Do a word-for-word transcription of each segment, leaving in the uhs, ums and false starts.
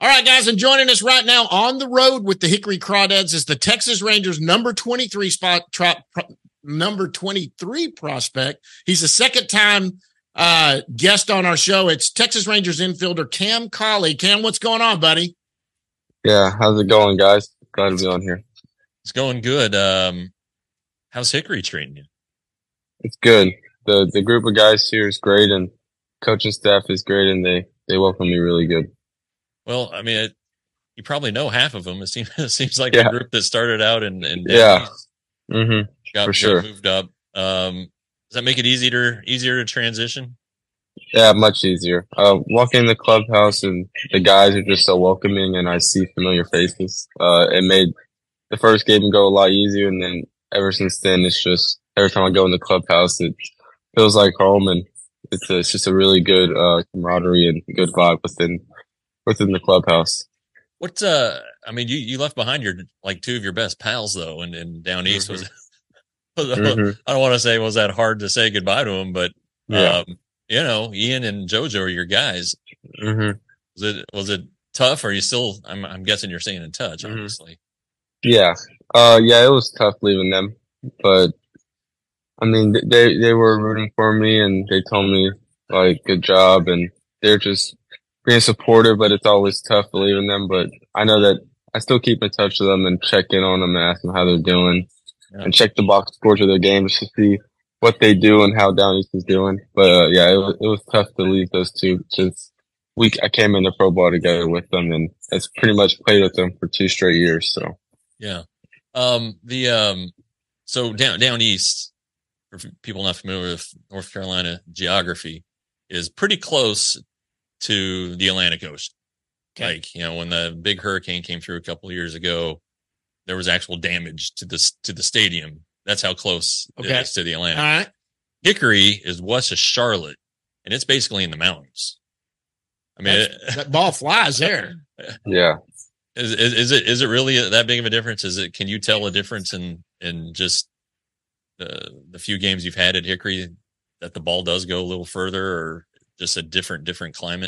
All right, guys, and joining us right now on the road with the Hickory Crawdads is the Texas Rangers number twenty-three spot, pro, pro, number twenty-three prospect. He's a second time uh, guest on our show. It's Texas Rangers infielder Cam Cauley. Cam, what's going on, buddy? Yeah, how's it going, guys? Glad to be on here. It's going good. Um, how's Hickory treating you? It's good. The the group of guys here is great, and coaching staff is great, and they, they welcome me really good. Well, I mean, it, you probably know half of them. It seems it seems like yeah. the group that started out and and yeah, mm-hmm. got, for got sure moved up. Um, does that make it easier easier to transition? Yeah, much easier. Uh, walking in the clubhouse and the guys are just so welcoming, and I see familiar faces. Uh, it made the first game go a lot easier, and then ever since then, it's just every time I go in the clubhouse, it feels like home, and it's a, it's just a really good uh, camaraderie and good vibe within. within the clubhouse. What's uh I mean you, you left behind your like two of your best pals though and, and down east mm-hmm. was, was mm-hmm. I don't want to say was that hard to say goodbye to them, but yeah. um you know, Ian and JoJo are your guys. Mm-hmm. Was it was it tough? Or are you still I'm I'm guessing you're staying in touch, mm-hmm. obviously. Yeah. Uh yeah, it was tough leaving them. But I mean they they were rooting for me and they told me like good job, and they're just being supportive, but it's always tough leaving them. But I know that I still keep in touch with them and check in on them and ask them how they're doing, yeah. and check the box scores of their games to see what they do and how Down East is doing. But uh, yeah, it was, it was tough to leave those two since we I came into pro ball together with them, and it's pretty much played with them for two straight years. So yeah, um, the um, so down down east, for people not familiar with North Carolina geography, is pretty close to the Atlantic Ocean. Okay. Like, you know, when the big hurricane came through a couple of years ago, there was actual damage to this to the stadium. That's how close okay. it is to the Atlantic. All right. Hickory is west of Charlotte, and it's basically in the mountains. I mean, it, that ball flies there. Yeah. Is, is is it is it really that big of a difference? Is it? Can you tell a difference in in just the the few games you've had at Hickory that the ball does go a little further, or just a different, different climate?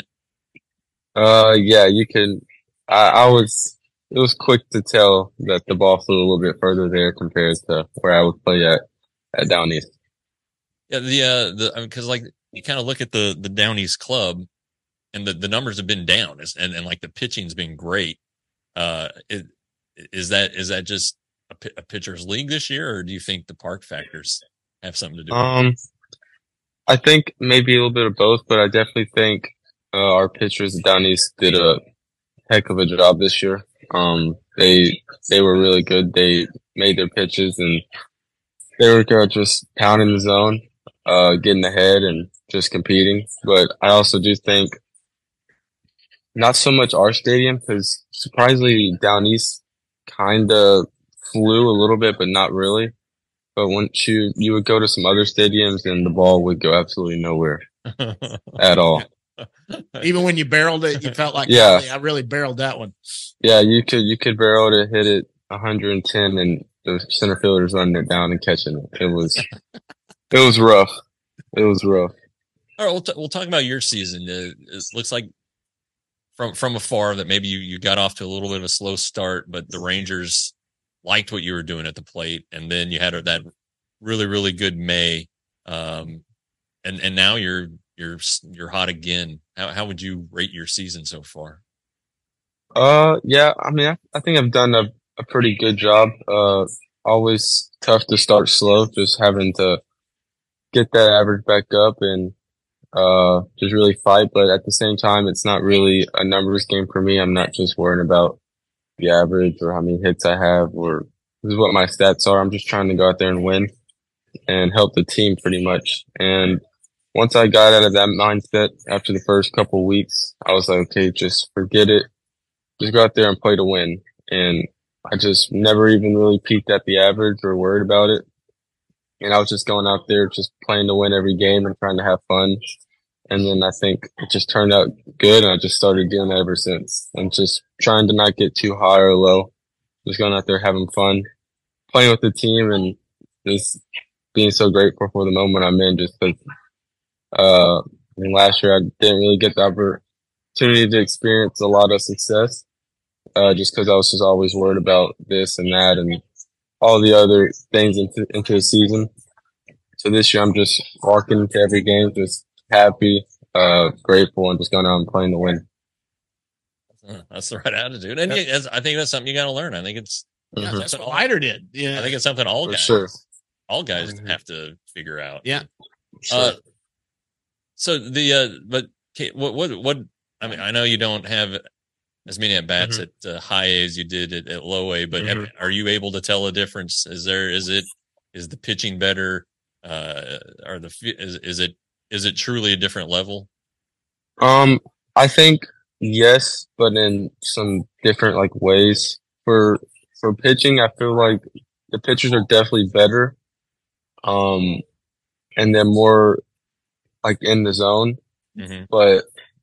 Uh, yeah, you can. I, I was, it was quick to tell that the ball flew a little bit further there compared to where I would play at, at Down East. Yeah, the, uh, the, I mean, cause like you kind of look at the, the Down East club and the, the numbers have been down and, and like the pitching's been great. Uh, is, is that, is that just a, a pitcher's league this year, or do you think the park factors have something to do with it? Um, I think maybe a little bit of both, but I definitely think uh, our pitchers down east did a heck of a job this year. Um, they they were really good. They made their pitches and they were just pounding the zone, uh, getting ahead and just competing. But I also do think not so much our stadium, because surprisingly down east kind of flew a little bit, but not really. But once you, you would go to some other stadiums and the ball would go absolutely nowhere at all. Even when you barreled it, you felt like, yeah, I really barreled that one. Yeah, you could, you could barrel to hit it one hundred ten and the center fielder's running it down and catching it. It was, it was rough. It was rough. All right. We'll, t- we'll talk about your season. Uh, it looks like from, from afar that maybe you, you got off to a little bit of a slow start, but the Rangers liked what you were doing at the plate, and then you had that really, really good May, um, and and now you're you're you're hot again. How how would you rate your season so far? Uh, yeah, I mean, I, I think I've done a, a pretty good job. Uh, always tough to start slow, just having to get that average back up and uh just really fight. But at the same time, it's not really a numbers game for me. I'm not just worrying about the average or how many hits I have, or this is what my stats are. I'm just trying to go out there and win and help the team pretty much. And once I got out of that mindset after the first couple of weeks, I was like, okay, just forget it. Just go out there and play to win. And I just never even really peeked at the average or worried about it. And I was just going out there, just playing to win every game and trying to have fun. And then I think it just turned out good, and I just started doing that ever since. I'm just trying to not get too high or low. Just going out there having fun, playing with the team, and just being so grateful for the moment I'm in. Just because, uh, I mean, last year I didn't really get the opportunity to experience a lot of success. Uh, just because I was just always worried about this and that and all the other things into into the season. So this year I'm just walking into every game just happy, uh, grateful, and just going out and playing to win. That's the right attitude, and you, I think that's something you got to learn. I think it's yeah, mm-hmm. that's what Leiter did. Yeah, I think it's something all For guys, sure. all guys mm-hmm. have to figure out. Yeah. Sure. Uh, so the uh, but what what what I mean, I know you don't have as many at bats mm-hmm. at uh, high A as you did at, at low A, but mm-hmm. have, are you able to tell a difference? Is there is it is the pitching better? Uh, are the is is it is it truly a different level? Um, I think yes, but in some different like ways. For for pitching, I feel like the pitchers are definitely better. Um, and they're more like in the zone. Mm-hmm. But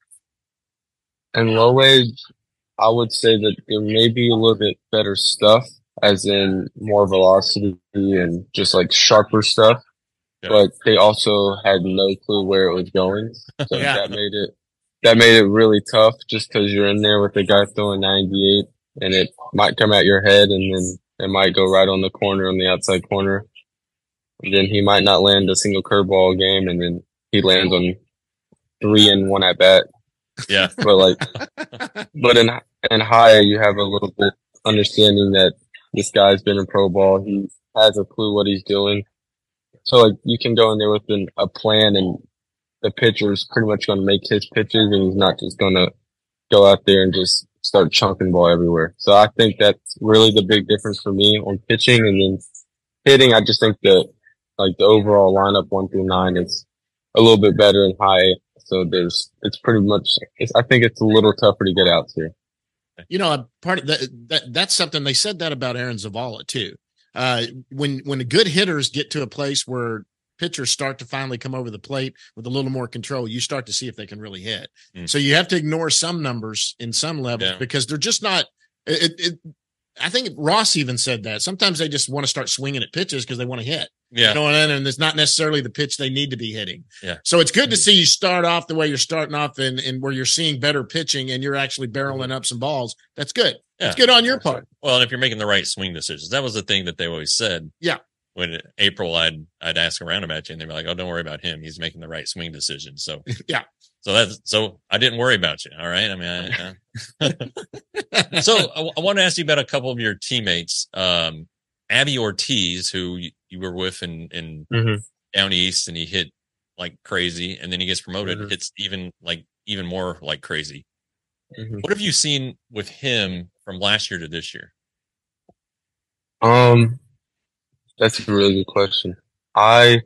in low age, I would say that there may be a little bit better stuff, as in more velocity and just like sharper stuff. Yeah. But they also had no clue where it was going, so yeah. that made it that made it really tough. Just because you're in there with the guy throwing ninety-eight, and it might come at your head, and then it might go right on the corner, on the outside corner. And then he might not land a single curveball game, and then he lands on three and one at bat. Yeah, but like, but in in high, you have a little bit understanding that this guy's been in pro ball. He has a clue what he's doing. So like, you can go in there with an, a plan, and the pitcher's pretty much going to make his pitches, and he's not just going to go out there and just start chunking ball everywhere. So I think that's really the big difference for me on pitching. And then hitting, I just think that like the overall lineup one through nine is a little bit better in high. So there's, it's pretty much, it's, I think it's a little tougher to get out to. You know, a part of that, that, that's something they said that about Aaron Zavala too. Uh, when, when the good hitters get to a place where pitchers start to finally come over the plate with a little more control, you start to see if they can really hit. Mm. So you have to ignore some numbers in some levels yeah. because they're just not, it, it, I think Ross even said that sometimes they just want to start swinging at pitches because they want to hit. Yeah. You know, and, and it's not necessarily the pitch they need to be hitting. Yeah. So it's good to see you start off the way you're starting off and, and where you're seeing better pitching and you're actually barreling up some balls. That's good. Yeah. That's good on your part. Well, and if you're making the right swing decisions, that was the thing that they always said. Yeah. When in April, I'd, I'd ask around about you and they'd be like, oh, don't worry about him. He's making the right swing decision. So, yeah. So that's, so I didn't worry about you. All right. I mean, I, uh... so I, I want to ask you about a couple of your teammates. Um, Abby Ortiz, who you, you were with in, in mm-hmm. down east, and he hit like crazy, and then he gets promoted, mm-hmm. hits even like even more like crazy. Mm-hmm. What have you seen with him from last year to this year? Um, that's a really good question. I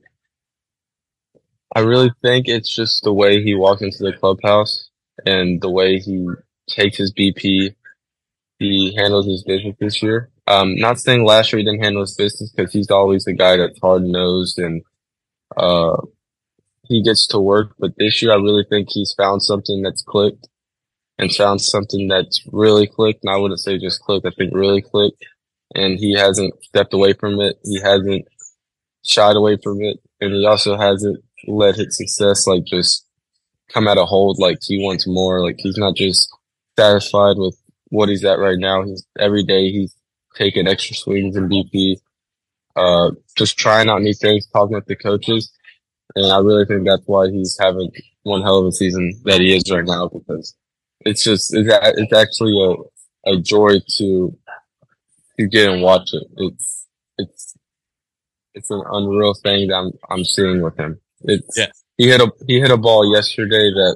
I really think it's just the way he walks into the clubhouse and the way he takes his B P. He handles his business this year. Um, not saying last year he didn't handle his business, because he's always the guy that's hard nosed and uh he gets to work. But this year I really think he's found something that's clicked and found something that's really clicked. And I wouldn't say just clicked, I think really clicked. And he hasn't stepped away from it. He hasn't shied away from it. And he also hasn't let his success like just come out of hold. Like he wants more. Like he's not just satisfied with what he's at right now. He's every day he's taking extra swings in B P, uh, just trying out new things, talking with the coaches. And I really think that's why he's having one hell of a season that he is right now, because it's just, it's, it's actually a, a joy to, to get and watch it. It's, it's, it's an unreal thing that I'm, I'm seeing with him. It's, yeah. he hit a, he hit a ball yesterday that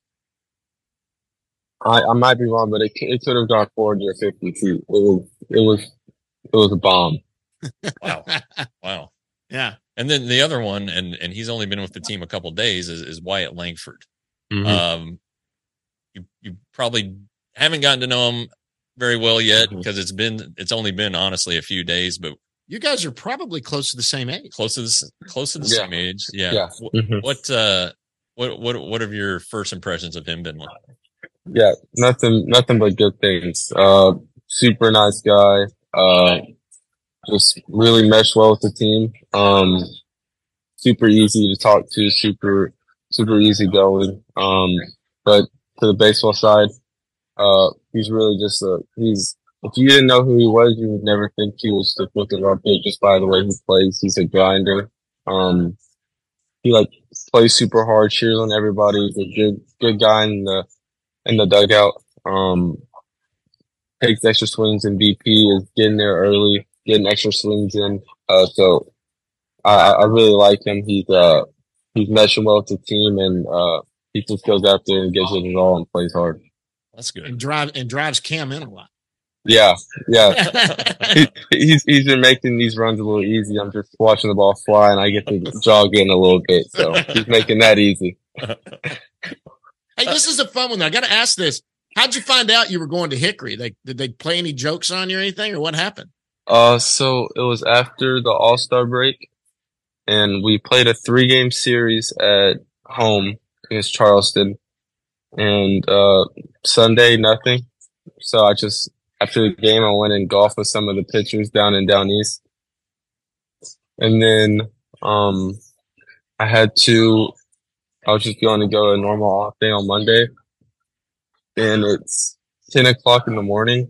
I, I might be wrong, but it, it could have gone forty or fifty feet. It was, it was, it was a bomb. Wow. Wow. Yeah. And then the other one, and, and he's only been with the team a couple of days, is, is Wyatt Langford. Mm-hmm. Um, you, you probably haven't gotten to know him very well yet, because mm-hmm. it's been, it's only been honestly a few days, but you guys are probably close to the same age. Close to the, close to the yeah. same age. Yeah. yeah. Mm-hmm. What, uh, what, what, what have your first impressions of him been like? Yeah, nothing, nothing but good things. Uh, super nice guy. Uh, just really meshed well with the team. Um, super easy to talk to, super, super easy going. Um, but to the baseball side. Uh, he's really just a, he's, if you didn't know who he was, you would never think he was the looking up big just by the way he plays. He's a grinder. Um, he like plays super hard, cheers on everybody. He's a good, good guy in the, in the dugout. Um, takes extra swings in B P, is getting there early, getting extra swings in. Uh, so I, I really like him. He's, uh, he's meshing well with the team, and, uh, he just goes out there and gives it his all and plays hard. That's good. And drive and drives Cam in a lot. Yeah, yeah. he, he's he's been making these runs a little easy. I'm just watching the ball fly, and I get to jog in a little bit. So he's making that easy. Hey, this is a fun one. I got to ask this: how'd you find out you were going to Hickory? They, did they play any jokes on you or anything, or what happened? Uh, so it was after the All-Star break, and we played a three-game series at home against Charleston. And uh, Sunday, nothing. So I just. After the game, I went and golfed with some of the pitchers down in Down East. And then um, I had to, I was just going to go a normal off day on Monday. And it's ten o'clock in the morning.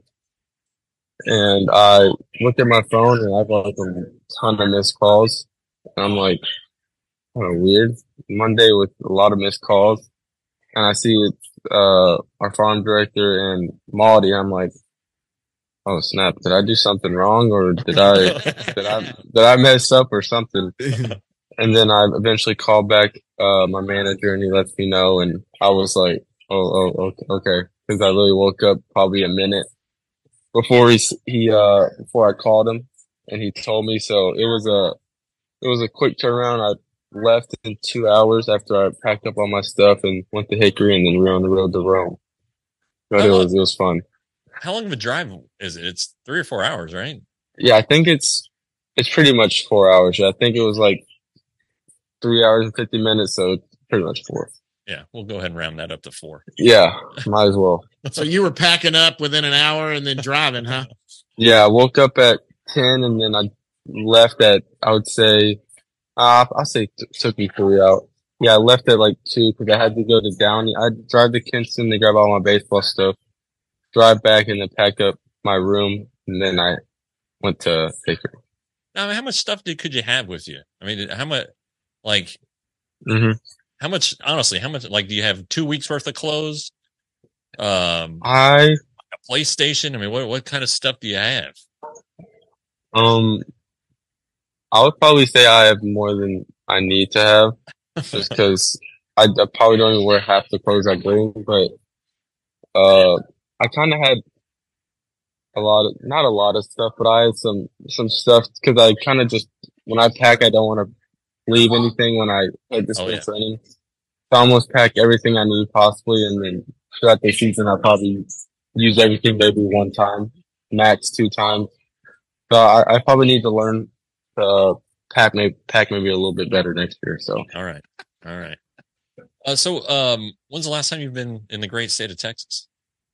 And I looked at my phone and I have like a ton of missed calls. And I'm like, kind of weird. Monday with a lot of missed calls. And I see it's uh, our farm director and Maldy. I'm like, oh snap! Did I do something wrong, or did I did I did I mess up or something? And then I eventually called back uh, my manager, and he lets me know. And I was like, oh, oh, okay, because I really woke up probably a minute before he he uh before I called him, and he told me. So it was a it was a quick turnaround. I left in two hours after I packed up all my stuff and went to Hickory, and then we were on the road to Rome. But it was it was fun. How long of a drive is it? It's three or four hours, right? Yeah, I think it's it's pretty much four hours. I think it was like three hours and fifty minutes, so it's pretty much four. Yeah, we'll go ahead and round that up to four. Yeah, might as well. So you were packing up within an hour and then driving, huh? Yeah, I woke up at ten and then I left at, I would say, uh, I'll say it took me three out. Yeah, I left at like two because I had to go to Downey. I'd drive to Kinston to grab all my baseball stuff, drive back, and then pack up my room, and then I went to Hickory. Now, I mean, how much stuff did, could you have with you? I mean, how much, like, mm-hmm. how much, honestly, how much, like, do you have two weeks worth of clothes? Um, I, a PlayStation? I mean, what, what kind of stuff do you have? Um, I would probably say I have more than I need to have, just because I, I probably don't even wear half the clothes I bring, but, uh, I kind of had a lot of, not a lot of stuff, but I had some, some stuff because I kind of just, when I pack, I don't want to leave anything when I head to spring Oh, yeah. training. So I almost pack everything I need possibly. And then throughout the season, I'll probably use everything maybe one time, max two times. So I, I probably need to learn to pack maybe, pack maybe a little bit better next year. So. All right. All right. Uh, so, um, when's the last time you've been in the great state of Texas?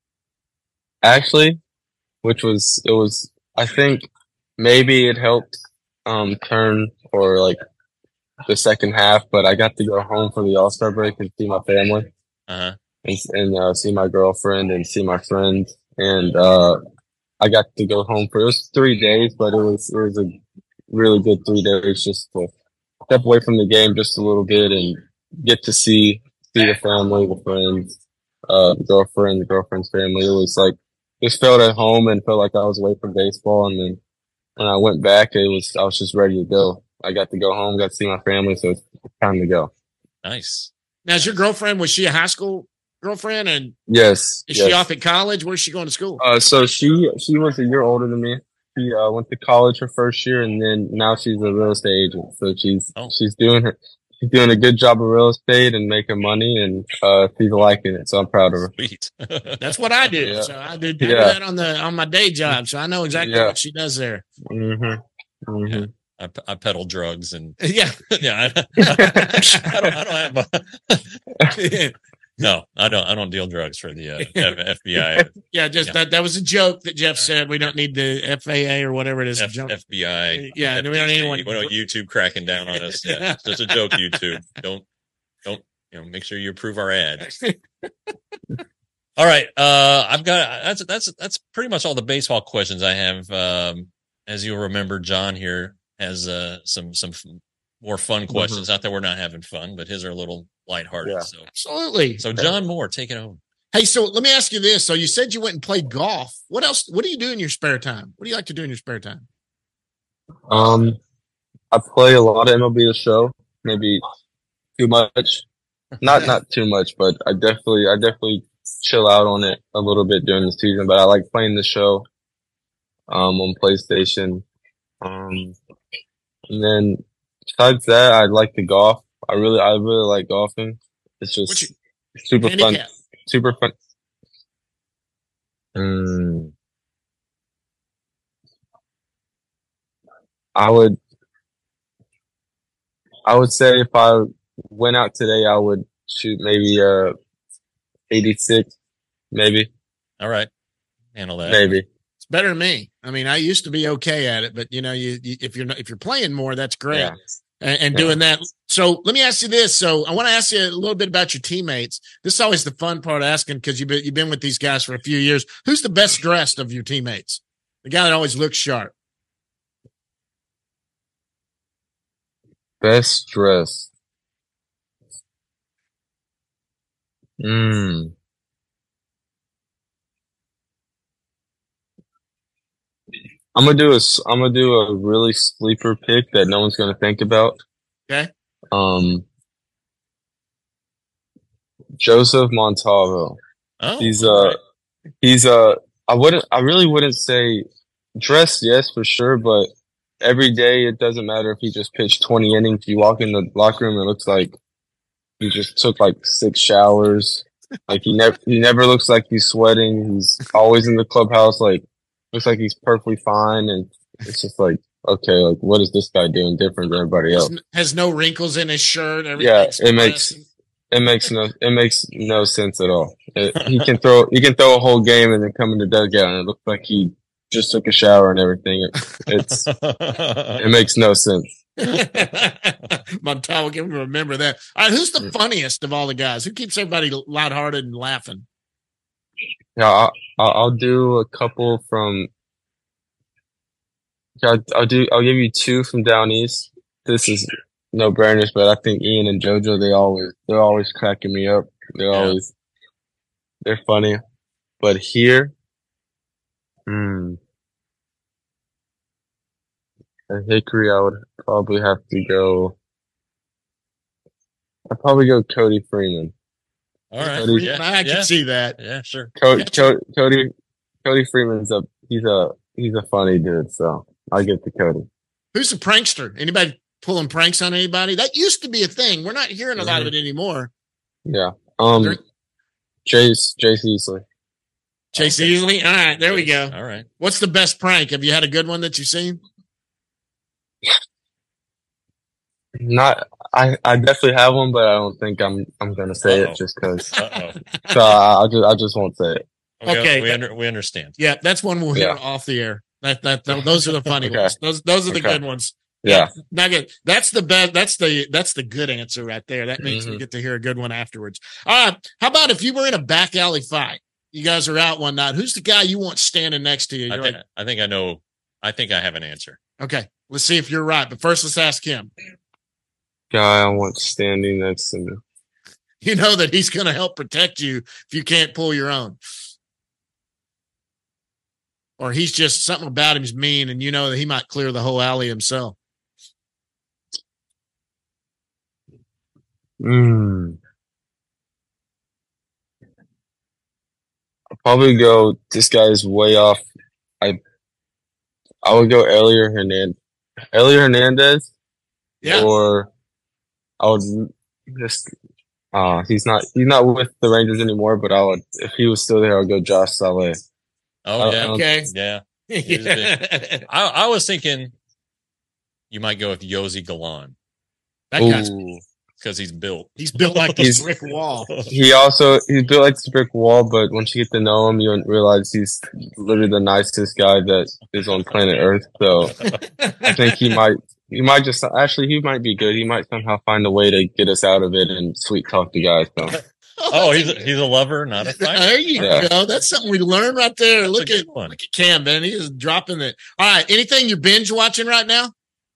Actually, which was, it was, I think maybe it helped, um, turn for like the second half, but I got to go home for the All-Star break and see my family Uh-huh. and, and, uh, see my girlfriend and see my friends. And, uh, I got to go home for, it was three days, but it was, it was a really good three days just to step away from the game just a little bit and get to see, see the family, the friends, uh, the girlfriend, the girlfriend's family. It was like, just felt at home and felt like I was away from baseball. And then when I went back, it was, I was just ready to go. I got to go home, got to see my family. So it's time to go. Nice. Now, is your girlfriend, was she a high school girlfriend? And Yes. is yes. she off at college? Where's she going to school? Uh, so she, she was a year older than me. She, uh, went to college her first year and then now she's a real estate agent. So she's, Oh. she's doing her, she's doing a good job of real estate and making money and, uh, she's liking it. So I'm proud of her. Sweet. That's what I do. Yeah. So I did, I do Yeah. that on the, on my day job. So I know exactly Yeah. what she does there. Mm-hmm. Mm-hmm. Yeah. I, I peddle drugs and Yeah. yeah, I, I don't, I don't have a, no, I don't, I don't deal drugs for the uh, F B I, Yeah. Just Yeah. that, that was a joke that Jeff said. We don't need the F A A or whatever it is. F, jump. FBI. Yeah, we don't need anyone- We don't YouTube cracking down on us. Yeah, it's just a joke. YouTube, don't, don't, you know, make sure you approve our ad. All right. Uh, I've got, that's, that's, that's pretty much all the baseball questions I have. Um, as you'll remember, John here has, uh, some, some f- more fun questions. Mm-hmm. Not that we're not having fun, but his are a little lighthearted. Yeah. So absolutely. So John Moore, take it over. Hey, so let me ask you this. So you said you went and played golf. What else? What do you do in your spare time? What do you like to do in your spare time? Um, I play a lot of M L B The Show. Maybe too much. Not not too much, but I definitely I definitely chill out on it a little bit during the season. But I like playing the show um, on PlayStation. Um, and then besides that, I like to golf. I really I really like golfing. It's just you, super fun. Super fun. Mm. I would, I would say if I went out today, I would shoot maybe uh eighty-six, maybe. All right, handle that. Maybe it's better than me. I mean, I used to be okay at it, but you know, you, you if you're not, if you're playing more, that's great. Yeah. And, and yeah. doing that. So let me ask you this. So I want to ask you a little bit about your teammates. This is always the fun part of asking because you've been, you've been with these guys for a few years. Who's the best dressed of your teammates? The guy that always looks sharp. Best dressed. Hmm. I'm gonna do a. I'm gonna do a really sleeper pick that no one's gonna think about. Okay. Um. Joseph Montalvo. Oh, he's uh, right. he's uh. I wouldn't. I really wouldn't say dressed. Yes, for sure. But every day, it doesn't matter if he just pitched twenty innings. You walk in the locker room, it looks like he just took like six showers. Like he never. He never looks like he's sweating. He's always in the clubhouse. Like. Looks like he's perfectly fine, and it's just like, okay, like what is this guy doing different than everybody else? Has no wrinkles in his shirt. Yeah, it makes it makes no it makes no sense at all. It, he can throw he can throw a whole game and then come in the dugout, and it looks like he just took a shower and everything. It, it's it makes no sense. Montalvo, can remember that. All right, who's the funniest of all the guys? Who keeps everybody lighthearted and laughing? Yeah, I'll, I'll do a couple from. I'll, I'll do. I'll give you two from down east. This is no brainers, but I think Ian and JoJo. They always. They're always cracking me up. They're yeah. always. They're funny, but here. Hmm. At Hickory, I would probably have to go. I'd probably go Cody Freeman. All right, Cody, yeah, I can yeah. see that. Yeah, sure. Cody, Cody, Cody Freeman's a he's a he's a funny dude, so I'll get to Cody. Who's the prankster? Anybody pulling pranks on anybody? That used to be a thing. We're not hearing a lot mm-hmm. of it anymore. Yeah. Um. There, Chase Chase Easley. Chase okay. Easley. All right, there Chase. we go. All right. What's the best prank? Have you had a good one that you've seen? Not. I, I definitely have one, but I don't think I'm I'm gonna say Uh-oh. it just because. So I, I just I just won't say it. Okay, okay. we under, we understand. Yeah, that's one we'll hear yeah. off the air. That, that that those are the funny okay. ones. Those those are the okay. good ones. Yeah, not good. That's the best. That's the that's the good answer right there. That means mm-hmm. we get to hear a good one afterwards. All right. How about if you were in a back alley fight? You guys are out one night. Who's the guy you want standing next to you? I think, like, I think I know. I think I have an answer. Okay, let's see if you're right. But first, let's ask him. Guy I want standing next to me. You know that he's going to help protect you if you can't pull your own. Or he's just something about him's mean, and you know that he might clear the whole alley himself. Hmm. I'll probably go. This guy's way off. I. I would go Elier Hernandez. Elier Hernandez. Yeah. Or. I would just. Uh, he's not. He's not with the Rangers anymore. But I would, if he was still there, I'd go Josh Saleh. Oh yeah, okay, yeah. yeah. I, I was thinking you might go with Yosi Galan. That guy's because he's built. He's built like He's- this brick wall. He also he's built like this brick wall, but once you get to know him, you realize he's literally the nicest guy that is on planet Earth. So I think he might he might just actually he might be good. He might somehow find a way to get us out of it and sweet talk the guys. So Oh, he's a, he's a lover, not a fighter. There you Yeah. go. That's something we learned right there. That's a Look good at one. look at Cam, man. He is dropping it. All right. Anything you're binge watching right now?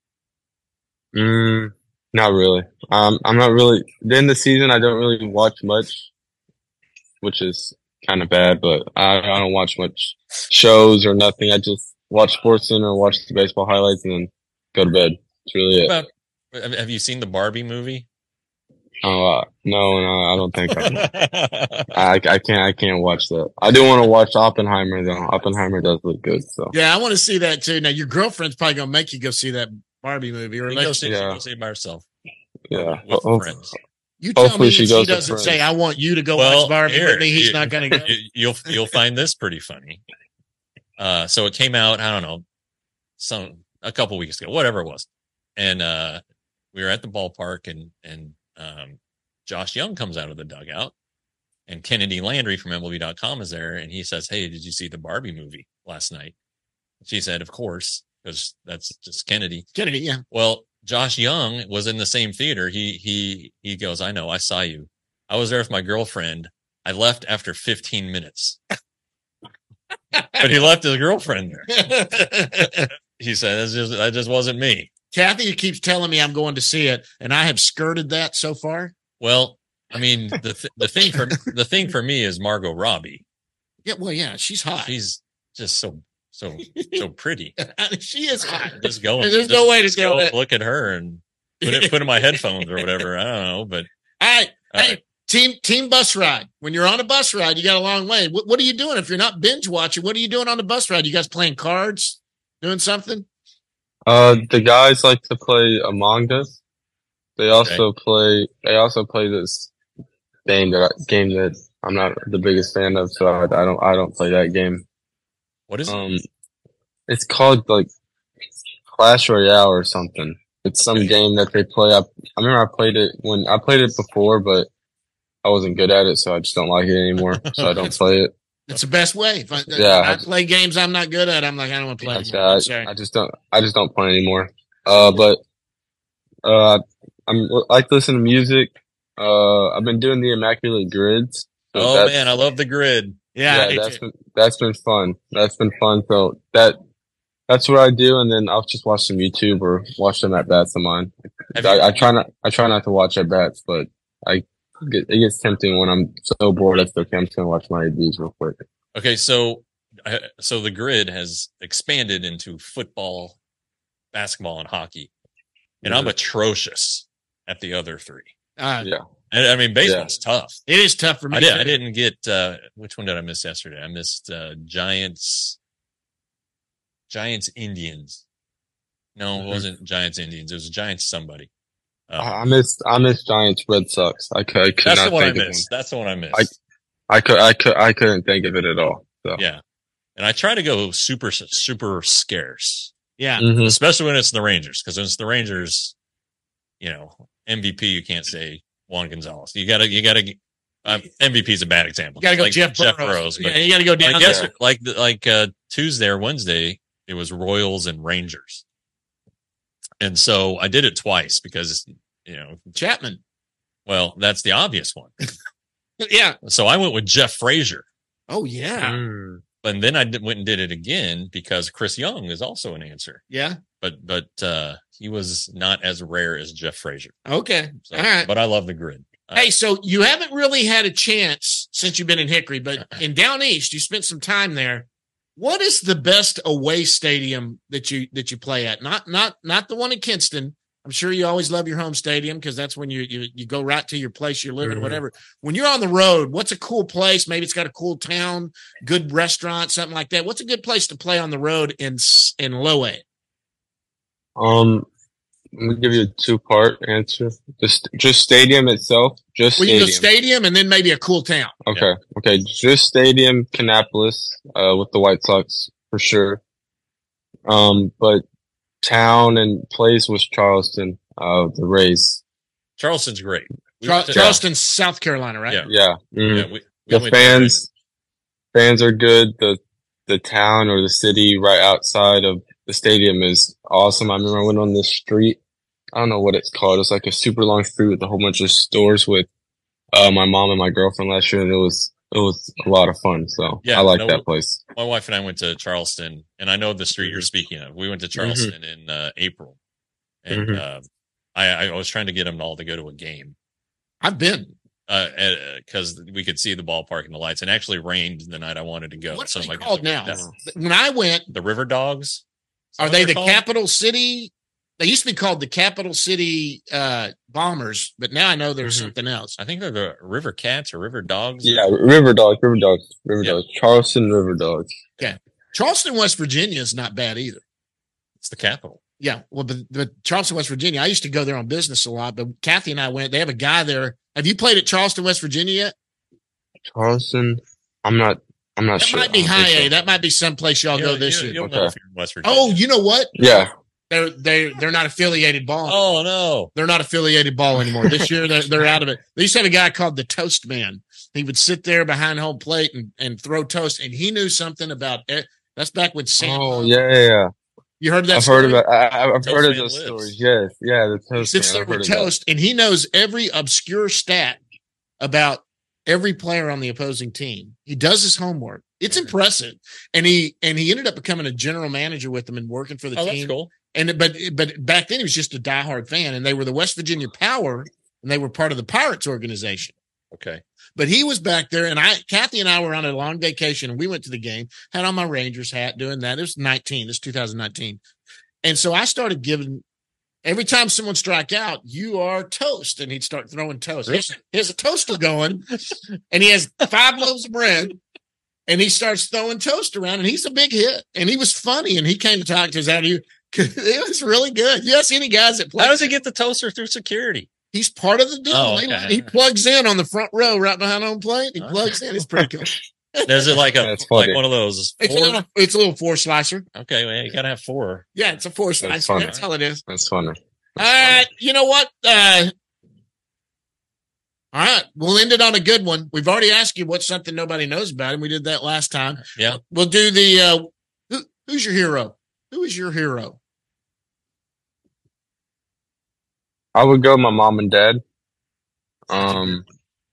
mm, not really. Um, I'm not really. Then the season, I don't really watch much, which is kind of bad. But I, I don't watch much shows or nothing. I just watch SportsCenter, watch the baseball highlights, and then go to bed. That's really it. About, have have you seen the Barbie movie? Oh uh, no, no, I don't think I, I. I can't. I can't watch that. I do want to watch Oppenheimer though. Oppenheimer does look good. So Yeah, I want to see that too. Now your girlfriend's probably gonna make you go see that Barbie movie, or You let go you, see, Yeah. go see it by herself. yeah. With Ho- friends. you tell Hopefully me she that goes he to doesn't friends. say, "I want you to go Well, watch Barbie here, with me." He's you- not gonna go. You- You'll you'll find this pretty funny. Uh, so it came out. I don't know, some a couple weeks ago, whatever it was, and uh, we were at the ballpark, and and um, Josh Young comes out of the dugout, and Kennedy Landry from M L B dot com is there, and he says, "Hey, did you see the Barbie movie last night?" She said, "Of course, because that's just Kennedy." Kennedy, yeah. Well, Josh Young was in the same theater. He he he goes, "I know, I saw you. I was there with my girlfriend. I left after fifteen minutes." But he left his girlfriend there. He said, "That's just that just wasn't me." Kathy keeps telling me I'm going to see it, and I have skirted that so far. Well, I mean, the th- the thing for the thing for me is Margot Robbie. Yeah, well, yeah, she's hot. She's just so so so pretty. She is hot. Just go. There's just, no way to just go. go look at her and put it put in my headphones or whatever. I don't know, but All right, all hey, right. team team bus ride. When you're on a bus ride, you got a long way. What, what are you doing if you're not binge watching? What are you doing on the bus ride? You guys playing cards, doing something? Uh, the guys like to play Among Us. They also play. They also play this game that I, game that I'm not the biggest fan of, so I, I don't. I don't play that game. What is it? Um, it's called like Clash Royale or something. It's some Okay. game that they play. I, I remember I played it when I played it before, but I wasn't good at it, so I just don't like it anymore. So I don't play it. That's the best way. If I, Yeah. I play games I'm not good at, I'm like, I don't want to play Like anymore. I'm that. sorry. I just don't. I just don't play anymore. Uh, but uh, I'm I like to listen to music. Uh, I've been doing the Immaculate Grids. So Oh that's- man, I love the grid. Yeah, I yeah, do that's too. been that's been fun. That's been fun. So that that's what I do, and then I'll just watch some YouTube or watch them at bats of mine. Have I, you- I try not I try not to watch at bats, but I get, it gets tempting when I'm so bored. That's okay. I'm just gonna watch my A Bs real quick. Okay, so uh, so the grid has expanded into football, basketball, and hockey, and I'm atrocious at the other three. Uh, Yeah. And, I mean, baseball's tough. it is tough for me. I did. too. I didn't get uh, which one did I miss yesterday? I missed uh, Giants, Giants Indians. No, it wasn't Giants Indians. It was Giants somebody. Uh, I I missed I missed Giants Red Sox. I could, I could that's not the one I think of missed. That's the one I missed. I could I could I couldn't think of it at all. So Yeah, and I try to go super super scarce. Yeah. Mhm. Especially when it's the Rangers, because when it's the Rangers, you know, M V P, you can't say Juan Gonzalez. You gotta, you gotta, um, M V P is a bad example. You got to go like Jeff Burrows. Burrows, but yeah, you got to go down like, there. yes, like, the- like, uh, Tuesday or Wednesday, it was Royals and Rangers. And so I did it twice because, you know, Chapman. well, that's the obvious one. Yeah. So I went with Jeff Frazier. Oh yeah. Mm. And then I did, went and did it again because Chris Young is also an answer, Yeah. but, but, uh, he was not as rare as Jeff Frazier. Okay. So, All right. but I love the grid. Uh, Hey, so you haven't really had a chance since you've been in Hickory, but in Down East, you spent some time there. What is the best away stadium that you that you play at? Not not not the one in Kinston. I'm sure you always love your home stadium because that's when you, you you go right to your place you're living, Mhm. whatever. When you're on the road, what's a cool place? Maybe it's got a cool town, good restaurant, something like that. What's a good place to play on the road in s- in low A? Um, I'm gonna give you a two part answer. Just just stadium itself. Just Well, you stadium. go stadium and then maybe a cool town. Okay. Okay. Just stadium, Kannapolis, uh, with the White Sox for sure. Um, but town and place was Charleston, uh, the Rays. Charleston's great. We Char- went to- Charleston, South Carolina, right? Yeah. Yeah. mhm. Yeah, we, we The went to- fans, fans are good. The the town or the city right outside of the stadium is awesome. I remember I went on this street. I don't know what it's called. It's like a super long street with a whole bunch of stores with uh, my mom and my girlfriend last year, and it was it was a lot of fun. So Yeah, I like no, that place. My wife and I went to Charleston, and I know the street Mm-hmm. you're speaking of. We went to Charleston in uh, April, and Mhm. uh, I, I was trying to get them all to go to a game I've been. because uh, we could see the ballpark and the lights. And it actually rained the night I wanted to go. What's so it I'm like, called now? that's- When I went, The River Dogs. Is that are what they they're the called? Capital City? They used to be called the Capital City uh, Bombers, but now I know there's Mhm. something else. I think they're the River Cats or River Dogs. Yeah, River Dogs, River Dogs, River Yeah. Dogs, Charleston River Dogs. Charleston, West Virginia is not bad either. It's the capital. Yeah, well, but, but Charleston, West Virginia, I used to go there on business a lot, but Kathy and I went. They have a guy there. Have you played at Charleston, West Virginia yet? Charleston, I'm not. I'm not That sure. might be I don't high think A. so. That might be someplace y'all You'll- go this you- year. You'll Okay. know if you're in West Virginia. Oh, you know what? Yeah, They're they they're not affiliated ball. Oh, no. They're not affiliated ball anymore. This year they're they're out of it. They used to have a guy called the Toast Man. He would sit there behind home plate and, and throw toast, and he knew something about it. That's back with Sam. oh yeah, yeah, yeah. You heard that? I've story? heard about. I, I- I've Toast heard of Man those lives. stories. Yes, yeah, the He toast. sits Man, there I've heard with of that. toast, and he knows every obscure stat about every player on the opposing team. He does his homework. It's impressive, and he and he ended up becoming a general manager with them and working for the Oh, team. that's cool. And but but back then he was just a diehard fan, and they were the West Virginia Power, and they were part of the Pirates organization. Okay. But he was back there, and I, Kathy and I were on a long vacation, and we went to the game. Had on my Rangers hat, doing that. It was nineteen. This is two thousand nineteen, and so I started giving. Every time someone strike out, you are toast, and he'd start throwing toast. He has, he has a toaster going, and he has five loaves of bread, and he starts throwing toast around, and he's a big hit, and he was funny, and he came to talk to us out of you. It was really good. You ask any guys that play. How does he get the toaster through security? He's part of the deal. Oh, He- okay. He plugs in on the front row right behind home plate. He Okay. plugs in. It's pretty cool. There's it like a That's like funny. one of those. It's a, Four? little, it's a little four slicer. Okay, well, you gotta have four. Yeah, it's a four slicer. funny. That's all it is. That's funny. All right. You know what? Uh, all right. We'll end it on a good one. We've already asked you what's something nobody knows about, and we did that last time. Yeah. We'll do the uh, who, who's your hero? Who is your hero? I would go with my mom and dad. Um,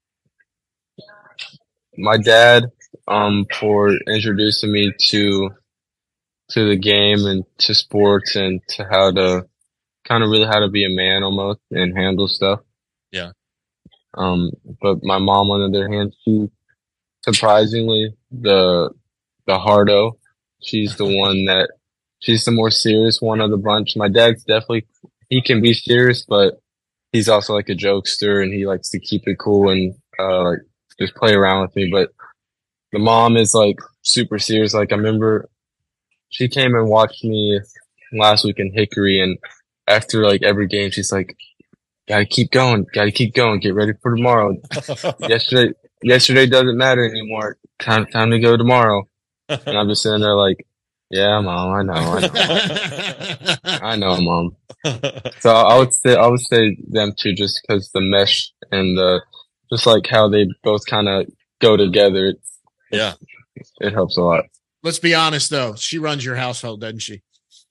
my dad, um, for introducing me to to the game and to sports and to how to kind of really how to be a man almost and handle stuff. Yeah. Um, but my mom, on the other hand, she surprisingly the the hardo. She's the one that she's the more serious one of the bunch. My dad's definitely he can be serious, but he's also like a jokester and he likes to keep it cool and uh like just play around with me. But the mom is like super serious. Like I remember she came and watched me last week in Hickory, and after like every game, she's like, "Gotta keep going, gotta keep going, get ready for tomorrow. yesterday, yesterday doesn't matter anymore. Time, time to go tomorrow." And I'm just sitting there like, "Yeah, mom, I know, I know, I know, mom." So I would say, I would say them two, just because the mesh and the, just like how they both kind of go together. It, Yeah. it helps a lot. Let's be honest, though. She runs your household, doesn't she?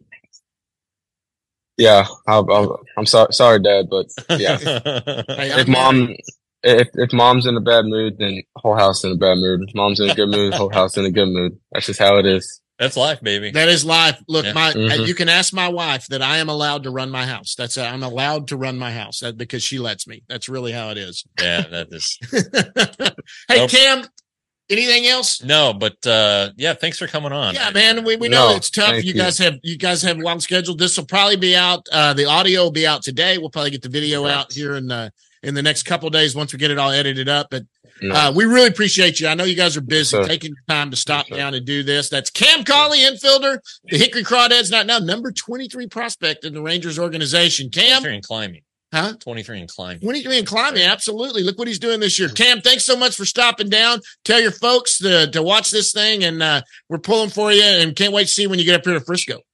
Yeah, I'll, I'll, I'm sorry, sorry, Dad, but yeah. Hey, If I'm mom, if if mom's in a bad mood, then whole house in a bad mood. If mom's in a good mood, whole house in a good mood. That's just how it is. That's life, baby. That is life. Look, Yeah. my Mhm. you can ask my wife that I am allowed to run my house. That's i I'm allowed to run my house that, because she lets me. That's really how it is. Yeah, that is. Hey, Nope. Cam, anything else? No, but uh yeah, thanks for coming on. Yeah, man, we, we know No, it's tough. thank You you. guys have you guys have long scheduled. This will probably be out. Uh, the audio will be out today. We'll probably get the video out here in the in the next couple of days once we get it all edited up. But No. uh, we really appreciate you. I know you guys are busy Yes, sir. taking your time to stop Yes, sir. down and do this. That's Cam Colley, infielder, the Hickory Crawdads, not now number twenty-three prospect in the Rangers organization. Cam, twenty-three and climbing. huh? twenty-three and climbing. twenty-three and climbing, absolutely. Look what he's doing this year. Cam, thanks so much for stopping down. Tell your folks to, to watch this thing, and uh, we're pulling for you, and can't wait to see you when you get up here to Frisco.